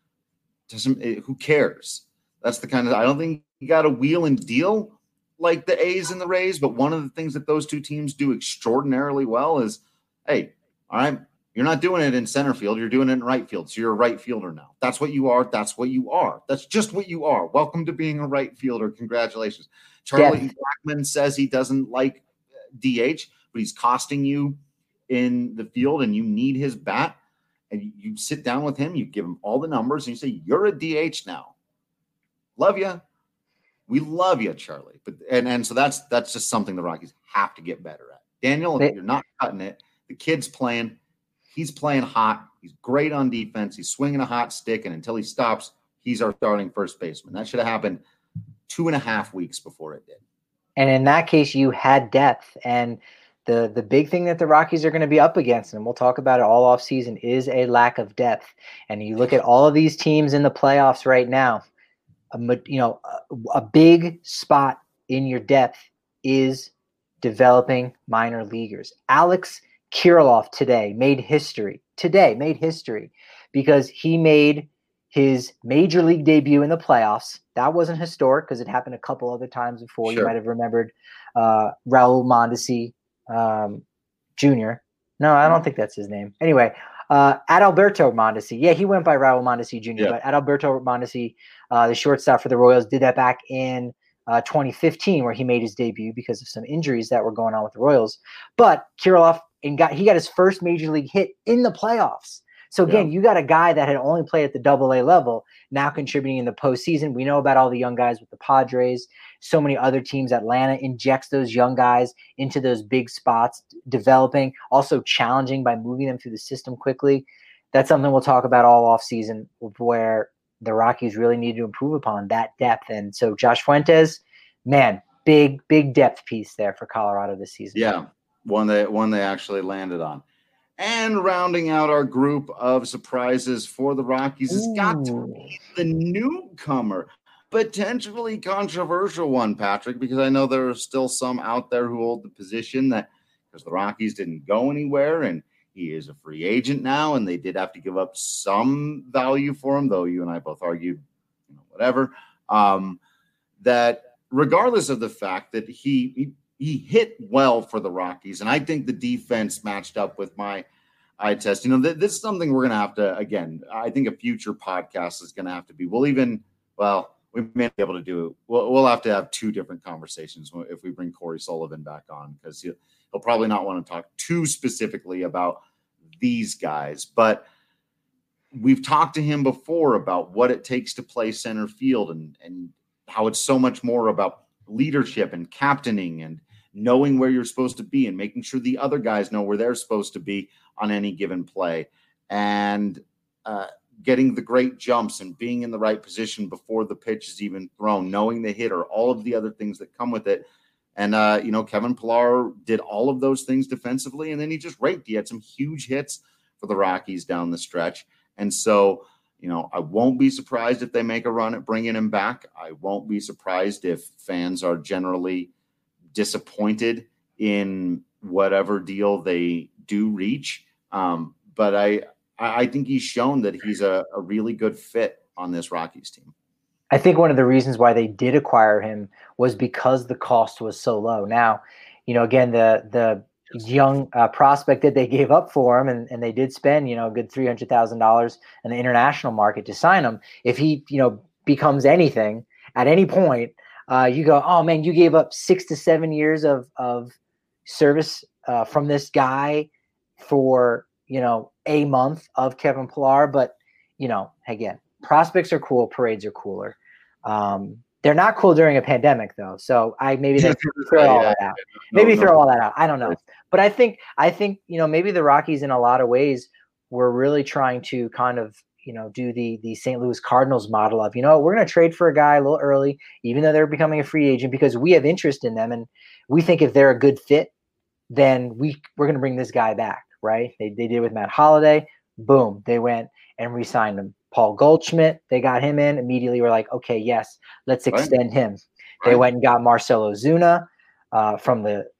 S1: doesn't it, who cares? That's the kind of, I don't think you got to wheel and deal like the A's and the Rays, but one of the things that those two teams do extraordinarily well is, hey, all right, you're not doing it in center field, you're doing it in right field, so you're a right fielder now. That's what you are. That's what you are. That's just what you are. Welcome to being a right fielder. Congratulations. Charlie yeah. Blackmon says he doesn't like D H, but he's costing you in the field, and you need his bat. And you, you sit down with him, you give him all the numbers, and you say, you're a D H now. Love you. We love you, Charlie. But and, and so that's that's just something the Rockies have to get better at. Daniel, they, you're not cutting it. The kid's playing. He's playing hot. He's great on defense. He's swinging a hot stick, and until he stops, he's our starting first baseman. That should have happened two and a half weeks before it did.
S4: And in that case, you had depth. And the the big thing that the Rockies are going to be up against, and we'll talk about it all off season, is a lack of depth. And you look at all of these teams in the playoffs right now, a, you know, a, a big spot in your depth is developing minor leaguers. Alex Kirilloff today made history. Today made history because he made his major league debut in the playoffs. That wasn't historic because it happened a couple other times before. Sure. You might have remembered uh, Raul Mondesi um, Junior No, I don't think that's his name. Anyway, uh, Adalberto Mondesi. Yeah, he went by Raul Mondesi Junior Yeah. But Adalberto Mondesi, uh, the shortstop for the Royals, did that back in uh, twenty fifteen, where he made his debut because of some injuries that were going on with the Royals. But Kirilloff and got he got his first major league hit in the playoffs. So again, yeah. you got a guy that had only played at the double A level, now contributing in the postseason. We know about all the young guys with the Padres, so many other teams. Atlanta injects those young guys into those big spots, developing, also challenging by moving them through the system quickly. That's something we'll talk about all offseason, where the Rockies really need to improve upon that depth. And so Josh Fuentes, man, big, big depth piece there for Colorado this season.
S1: Yeah, one that one they actually landed on. And rounding out our group of surprises for the Rockies has got to be the newcomer, potentially controversial one, Patrick, because I know there are still some out there who hold the position that because the Rockies didn't go anywhere and he is a free agent now, and they did have to give up some value for him, though you and I both argued, you know, whatever, um, that regardless of the fact that he, he He hit well for the Rockies, and I think the defense matched up with my eye test. You know, th- this is something we're going to have to, again, I think a future podcast is going to have to be, we'll even, well, we may be able to do it. We'll, we'll have to have two different conversations if we bring Corey Sullivan back on, because he'll, he'll probably not want to talk too specifically about these guys. But we've talked to him before about what it takes to play center field and, and how it's so much more about leadership and captaining and knowing where you're supposed to be and making sure the other guys know where they're supposed to be on any given play, and uh, getting the great jumps and being in the right position before the pitch is even thrown, knowing the hitter, all of the other things that come with it. And, uh, you know, Kevin Pillar did all of those things defensively, and then he just raked. He had some huge hits for the Rockies down the stretch. And so, you know, I won't be surprised if they make a run at bringing him back. I won't be surprised if fans are generally disappointed in whatever deal they do reach. Um, but I, I think he's shown that he's a, a really good fit on this Rockies team.
S4: I think one of the reasons why they did acquire him was because the cost was so low. Now, you know, again, the the young uh, prospect that they gave up for him, and, and they did spend, you know, a good three hundred thousand dollars in the international market to sign him. If he, you know, becomes anything at any point, uh, you go, oh man, you gave up six to seven years of, of service uh, from this guy for, you know, a month of Kevin Pillar. But, you know, again, prospects are cool. Parades are cooler. Um, They're not cool during a pandemic, though. So I maybe they throw all that out. Maybe no, no. throw all that out. I don't know. But I think I think you know maybe the Rockies in a lot of ways were really trying to kind of you know do the the Saint Louis Cardinals model of you know we're going to trade for a guy a little early, even though they're becoming a free agent, because we have interest in them and we think if they're a good fit, then we we're going to bring this guy back, right? They they did with Matt Holliday. Boom, they went and re-signed him. Paul Goldschmidt, they got him in. Immediately we're like, okay, yes, let's extend right. him. Right. They went and got Marcell Ozuna uh, from the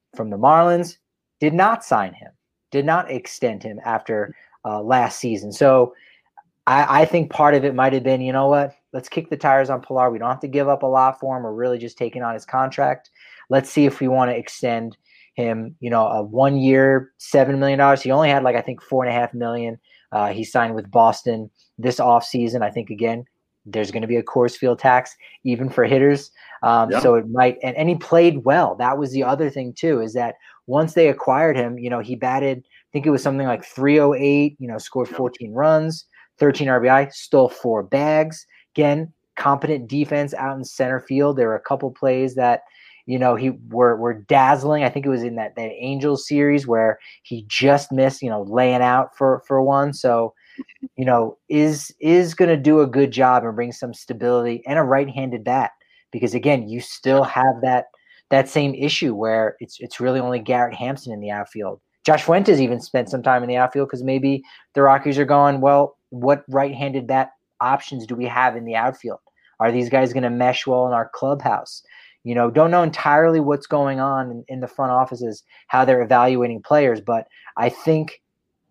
S4: from the Marlins did not sign him, did not extend him after uh, last season. So I, I think part of it might have been, you know what, let's kick the tires on Pilar. We don't have to give up a lot for him. We're really just taking on his contract. Let's see if we want to extend him, you know, a one year, seven million dollars. He only had like, I think four and a half million. Uh, he signed with Boston this offseason. I think, again, there's going to be a Coors Field tax even for hitters. Um, yeah. So it might, and, and he played well. That was the other thing too, is that once they acquired him, you know, he batted, I think it was something like three oh eight, you know, scored fourteen runs, thirteen R B I, stole four bags. Again, competent defense out in center field. There were a couple plays that, you know, he were were dazzling. I think it was in that, that Angels series where he just missed, you know, laying out for, for one. So, you know, is is going to do a good job and bring some stability and a right-handed bat. Because, again, you still have that that same issue where it's it's really only Garrett Hampson in the outfield. Josh Fuentes even spent some time in the outfield because maybe the Rockies are going, well, what right-handed bat options do we have in the outfield? Are these guys going to mesh well in our clubhouse? You know, don't know entirely what's going on in, in the front offices, how they're evaluating players. But I think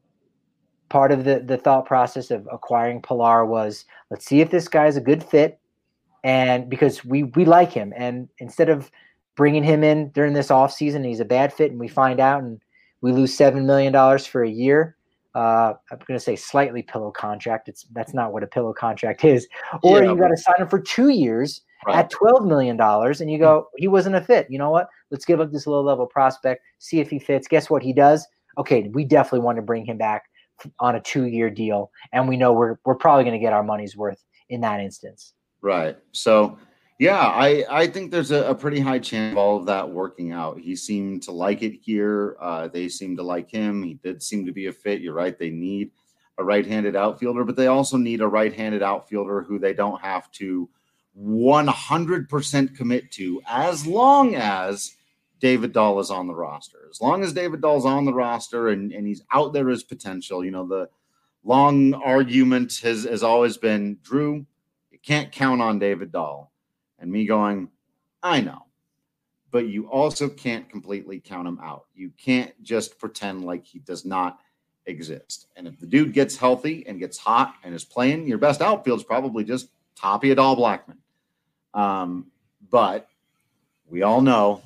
S4: part of the, the thought process of acquiring Pilar was, let's see if this guy's a good fit. And because we, we like him. And instead of bringing him in during this offseason, he's a bad fit and we find out and we lose seven million dollars for a year. Uh, I'm going to say slightly pillow contract. It's That's not what a pillow contract is. Or yeah, you got to sign him for two years right. at twelve million dollars and you go, he wasn't a fit. You know what? Let's give up this low-level prospect, see if he fits. Guess what he does? Okay, we definitely want to bring him back on a two-year deal, and we know we're we're probably going to get our money's worth in that instance.
S1: Right. So, yeah, I, I think there's a, a pretty high chance of all of that working out. He seemed to like it here. Uh, they seem to like him. He did seem to be a fit. You're right. They need a right-handed outfielder, but they also need a right-handed outfielder who they don't have to one hundred percent commit to as long as David Dahl is on the roster. As long as David Dahl's on the roster and, and he's out there as potential, you know, the long argument has, has always been, Drew, you can't count on David Dahl. And me going, I know, but you also can't completely count him out. You can't just pretend like he does not exist. And if the dude gets healthy and gets hot and is playing, your best outfield is probably just Tapia Dahl Blackmon. Um, but we all know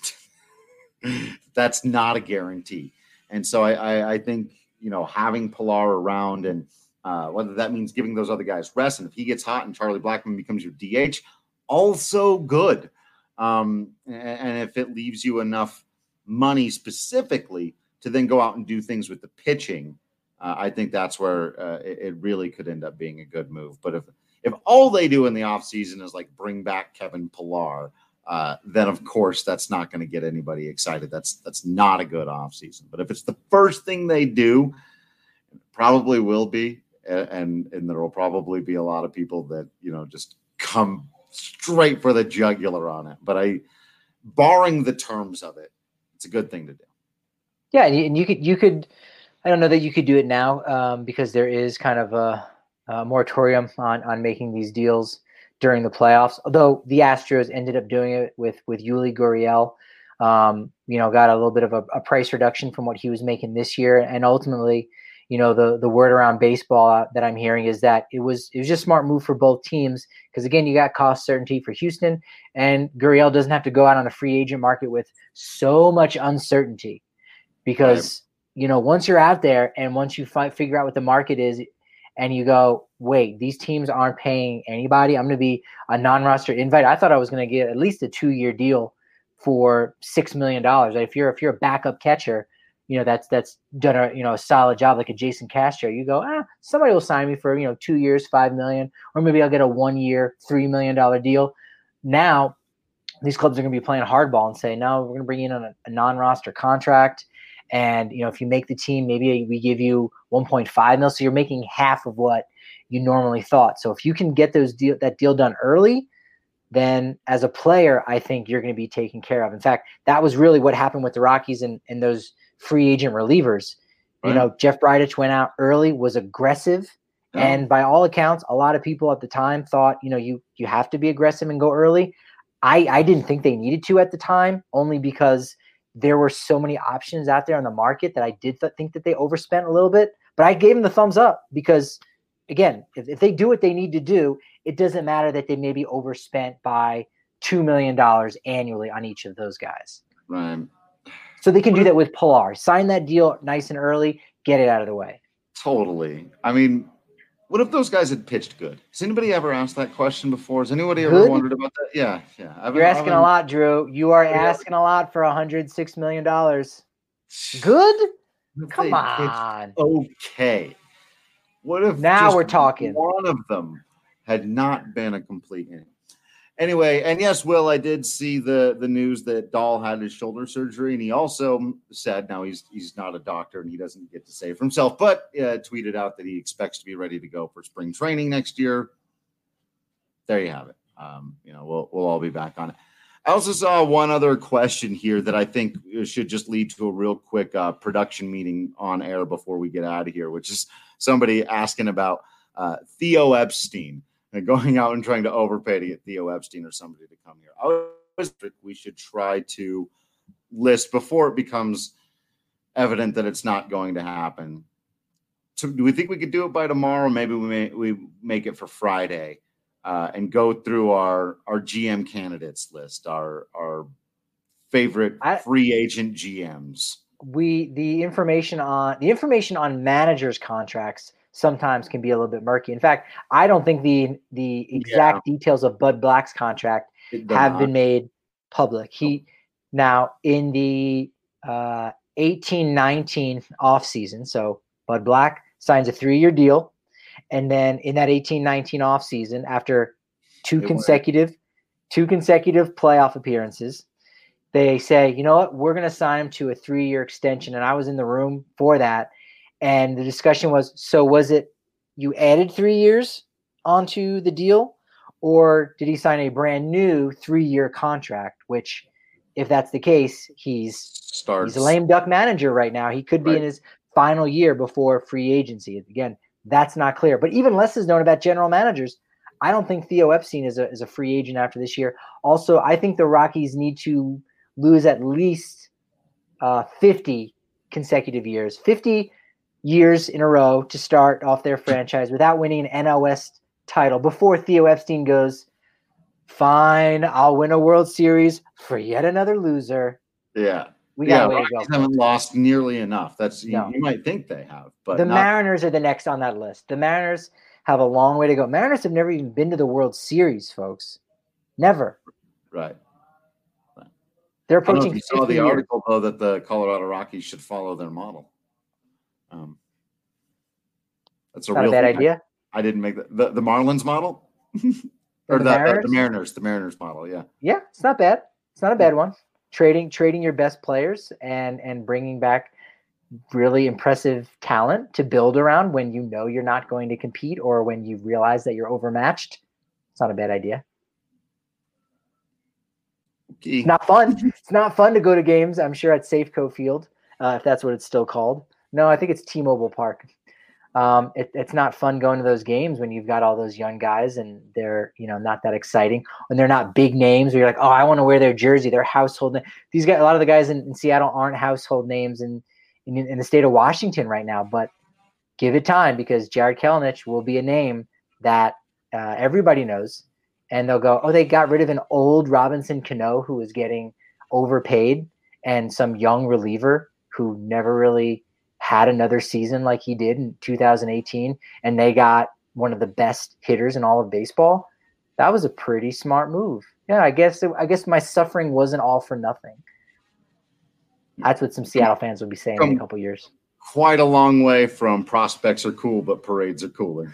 S1: that's not a guarantee. And so I, I, I think, you know, having Pilar around and uh, whether that means giving those other guys rest, and if he gets hot and Charlie Blackmon becomes your D H, also good. Um, and, and if it leaves you enough money specifically to then go out and do things with the pitching, uh, I think that's where uh, it, it really could end up being a good move. But if if all they do in the offseason is like bring back Kevin Pilar, uh, then of course that's not going to get anybody excited. That's that's not a good offseason. But if it's the first thing they do, it probably will be, and and there will probably be a lot of people that, you know, just come straight for the jugular on it. But I, barring the terms of it, it's a good thing to do.
S4: Yeah, and you could you could, I don't know that you could do it now um, because there is kind of a, a moratorium on on making these deals during the playoffs. Although the Astros ended up doing it with with Yuli Gurriel, um, you know, got a little bit of a, a price reduction from what he was making this year, and ultimately, you know, the the word around baseball that I'm hearing is that it was it was just a smart move for both teams because, again, you got cost certainty for Houston, and Gurriel doesn't have to go out on the free agent market with so much uncertainty because, right. you know, once you're out there and once you fi- figure out what the market is and you go, wait, these teams aren't paying anybody, I'm going to be a non-roster invite. I thought I was going to get at least a two-year deal for six million dollars. If you're if you're a backup catcher, you know, that's that's done a you know a solid job like a Jason Castro. You go, ah, somebody will sign me for you know two years, five million, or maybe I'll get a one year, three million dollar deal. Now, these clubs are going to be playing hardball and say, no, we're going to bring you in on a, a non-roster contract, and you know if you make the team, maybe we give you one point five mil, so you're making half of what you normally thought. So if you can get those deal that deal done early, then as a player, I think you're going to be taken care of. In fact, that was really what happened with the Rockies and and those free agent relievers. Right. You know, Jeff Bridich went out early, was aggressive. Yeah. And by all accounts, a lot of people at the time thought, you know, you, you have to be aggressive and go early. I, I didn't think they needed to at the time, only because there were so many options out there on the market that I did th- think that they overspent a little bit, but I gave them the thumbs up because, again, if, if they do what they need to do, it doesn't matter that they maybe overspent by two million dollars annually on each of those guys.
S1: Right.
S4: So they can do that with Pilar. Sign that deal nice and early, get it out of the way.
S1: Totally. I mean, what if those guys had pitched good? Has anybody ever asked that question before? Has anybody ever
S4: Good?
S1: wondered about that? Yeah, yeah. I've
S4: You're
S1: been,
S4: asking
S1: been,
S4: a lot, Drew. You are asking a lot for one hundred six million dollars. Good? Come on.
S1: Okay. What if
S4: now
S1: just
S4: we're talking?
S1: One of them had not been a complete inning. Anyway, and yes, Will, I did see the the news that Dahl had his shoulder surgery, and he also said, now he's he's not a doctor and he doesn't get to say for himself, but uh, tweeted out that he expects to be ready to go for spring training next year. There you have it. Um, you know, we'll we'll all be back on it. I also saw one other question here that I think should just lead to a real quick uh, production meeting on air before we get out of here, which is somebody asking about uh, Theo Epstein. And going out and trying to overpay to get Theo Epstein or somebody to come here. I always think we should try to list before it becomes evident that it's not going to happen. So do we think we could do it by tomorrow? Maybe we may we make it for Friday uh, and go through our, our G M candidates list, our our favorite
S4: I,
S1: free agent G Ms.
S4: We the information on the information on managers' contracts sometimes can be a little bit murky. In fact, I don't think the the exact yeah. details of Bud Black's contract have not. been made public. He now in the uh, eighteen nineteen offseason, so Bud Black signs a three-year deal, and then in that eighteen nineteen offseason, after two it consecutive went. two consecutive playoff appearances, they say, you know what, we're going to sign him to a three-year extension. And I was in the room for that. And the discussion was, so was it you added three years onto the deal, or did he sign a brand new three-year contract? Which, if that's the case, he's Starts. he's a lame duck manager right now. He could be right. in his final year before free agency. Again, that's not clear. But even less is known about general managers. I don't think Theo Epstein is a is a free agent after this year. Also, I think the Rockies need to lose at least uh, fifty consecutive years. fifty years in a row to start off their franchise without winning an N L West title before Theo Epstein goes, fine, I'll win a World Series for yet another loser.
S1: Yeah.
S4: We got
S1: yeah,
S4: a way
S1: Rockies
S4: to go.
S1: haven't lost nearly enough. That's no. you, you might think they have, but
S4: the
S1: not.
S4: Mariners are the next on that list. The Mariners have a long way to go. Mariners have never even been to the World Series, folks. Never.
S1: Right.
S4: right. They're approaching.
S1: You saw the years. article though that the Colorado Rockies should follow their model. Um, that's a
S4: not
S1: real
S4: a bad
S1: thing.
S4: idea.
S1: I, I didn't make that. The, the Marlins model? or the, the, Mariners? the Mariners, the Mariners model, yeah.
S4: Yeah, it's not bad. It's not a bad one. Trading trading your best players and and bringing back really impressive talent to build around when you know you're not going to compete or when you realize that you're overmatched. It's not a bad idea.
S1: Okay.
S4: It's not fun. It's not fun to go to games, I'm sure, at Safeco Field, uh, if that's what it's still called. No, I think it's T-Mobile Park. Um, it, it's not fun going to those games when you've got all those young guys and they're, you know, not that exciting. When they're not big names where you're like, oh, I want to wear their jersey, their household name. These guys, a lot of the guys in, in Seattle aren't household names in, in in the state of Washington right now. But give it time because Jared Kelenic will be a name that uh, everybody knows. And they'll go, oh, they got rid of an old Robinson Cano who was getting overpaid and some young reliever who never really – had another season like he did in two thousand eighteen, and they got one of the best hitters in all of baseball. That was a pretty smart move. Yeah, I guess it, I guess my suffering wasn't all for nothing. That's what some Seattle fans will be saying from in a couple years.
S1: Quite a long way from prospects are cool, but parades are cooler.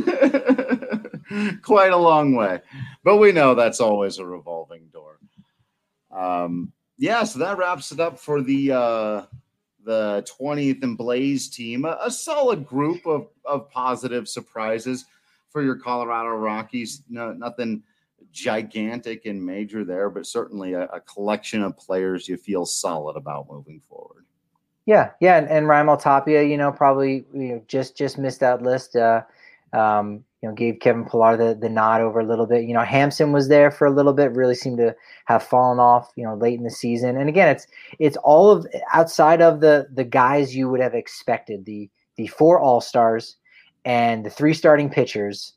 S1: Quite a long way. But we know that's always a revolving door. Um, yeah, so that wraps it up for the uh, – the twentieth and Blaze team, a, a solid group of, of positive surprises for your Colorado Rockies. No, nothing gigantic and major there, but certainly a, a collection of players you feel solid about moving forward.
S4: Yeah. Yeah. And, and Raimel Tapia, you know, probably, you know, just, just missed that list. Uh, um, you know, gave Kevin Pillar the, the nod over a little bit. You know, Hampson was there for a little bit, really seemed to have fallen off, you know, late in the season. And again, it's it's all of outside of the the guys you would have expected, the the four all-stars and the three starting pitchers.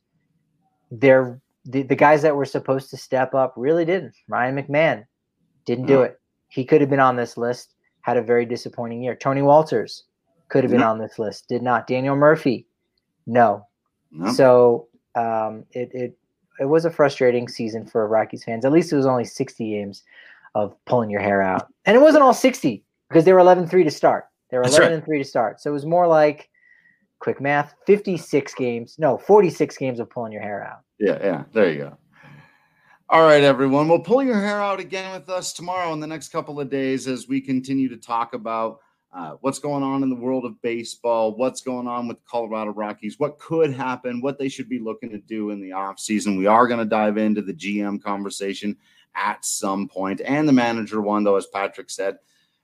S4: They're the, the guys that were supposed to step up really didn't. Ryan McMahon didn't do it. He could have been on this list, had a very disappointing year. Tony Walters could have been on this list, did not. Daniel Murphy, no. No. So um, it it it was a frustrating season for Rockies fans. At least it was only sixty games of pulling your hair out, and it wasn't all sixty because they were eleven three to start. They were That's eleven right. and three to start. So it was more like, quick math, fifty-six games. No, forty-six games of pulling your hair out.
S1: Yeah, yeah. There you go. All right, everyone. Well, pull your hair out again with us tomorrow in the next couple of days as we continue to talk about Uh, what's going on in the world of baseball, what's going on with Colorado Rockies, what could happen, what they should be looking to do in the offseason. We are going to dive into the G M conversation at some point, and the manager one, though, as Patrick said,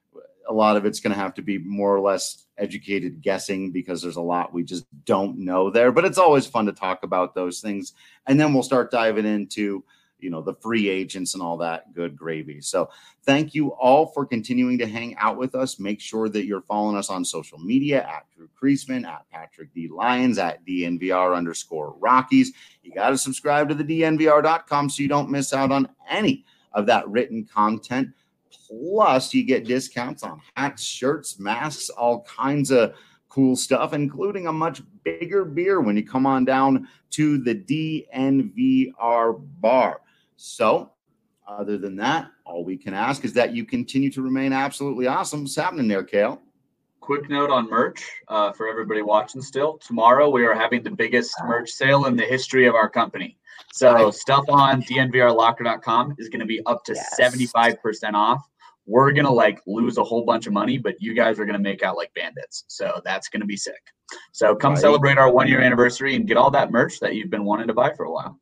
S1: a lot of it's going to have to be more or less educated guessing because there's a lot we just don't know there. But it's always fun to talk about those things. And then we'll start diving into you know, the free agents and all that good gravy. So thank you all for continuing to hang out with us. Make sure that you're following us on social media at Drew Creasman, at Patrick D. Lyons, at D N V R underscore Rockies. You got to subscribe to the D N V R dot com so you don't miss out on any of that written content. Plus, you get discounts on hats, shirts, masks, all kinds of cool stuff, including a much bigger beer when you come on down to the D N V R bar. So, other than that, all we can ask is that you continue to remain absolutely awesome. What's happening there, Kale?
S5: Quick note on merch uh, for everybody watching still. Tomorrow, we are having the biggest merch sale in the history of our company. So, right. Stuff on D N V R locker dot com is going to be up to yes. seventy-five percent off. We're going to, like, lose a whole bunch of money, but you guys are going to make out like bandits. So, that's going to be sick. So, come right. celebrate our one-year anniversary and get all that merch that you've been wanting to buy for a while.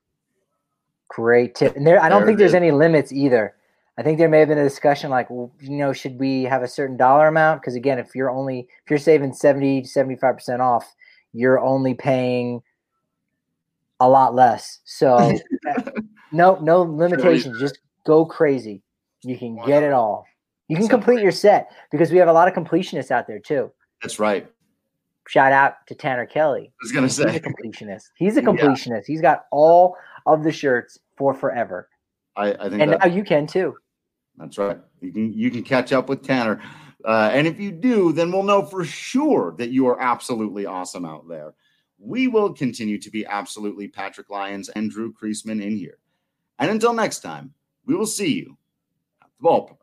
S4: Great tip. And there, I don't there think there's is. any limits either. I think there may have been a discussion like, well, you know, should we have a certain dollar amount? Because again, if you're only, if you're saving seventy to seventy-five percent off, you're only paying a lot less. So no, no limitations. Just go crazy. You can get it all. You can complete your set because we have a lot of completionists out there too.
S1: That's right.
S4: Shout out to Tanner Kelly.
S1: I was going to say.
S4: He's a completionist. He's a completionist. Yeah. He's got all of the shirts for forever.
S1: I, I think
S4: and now you can too.
S1: That's right. You can you can catch up with Tanner. Uh, and if you do, then we'll know for sure that you are absolutely awesome out there. We will continue to be absolutely Patrick Lyons and Drew Creasman in here. And until next time, we will see you at the ballpark.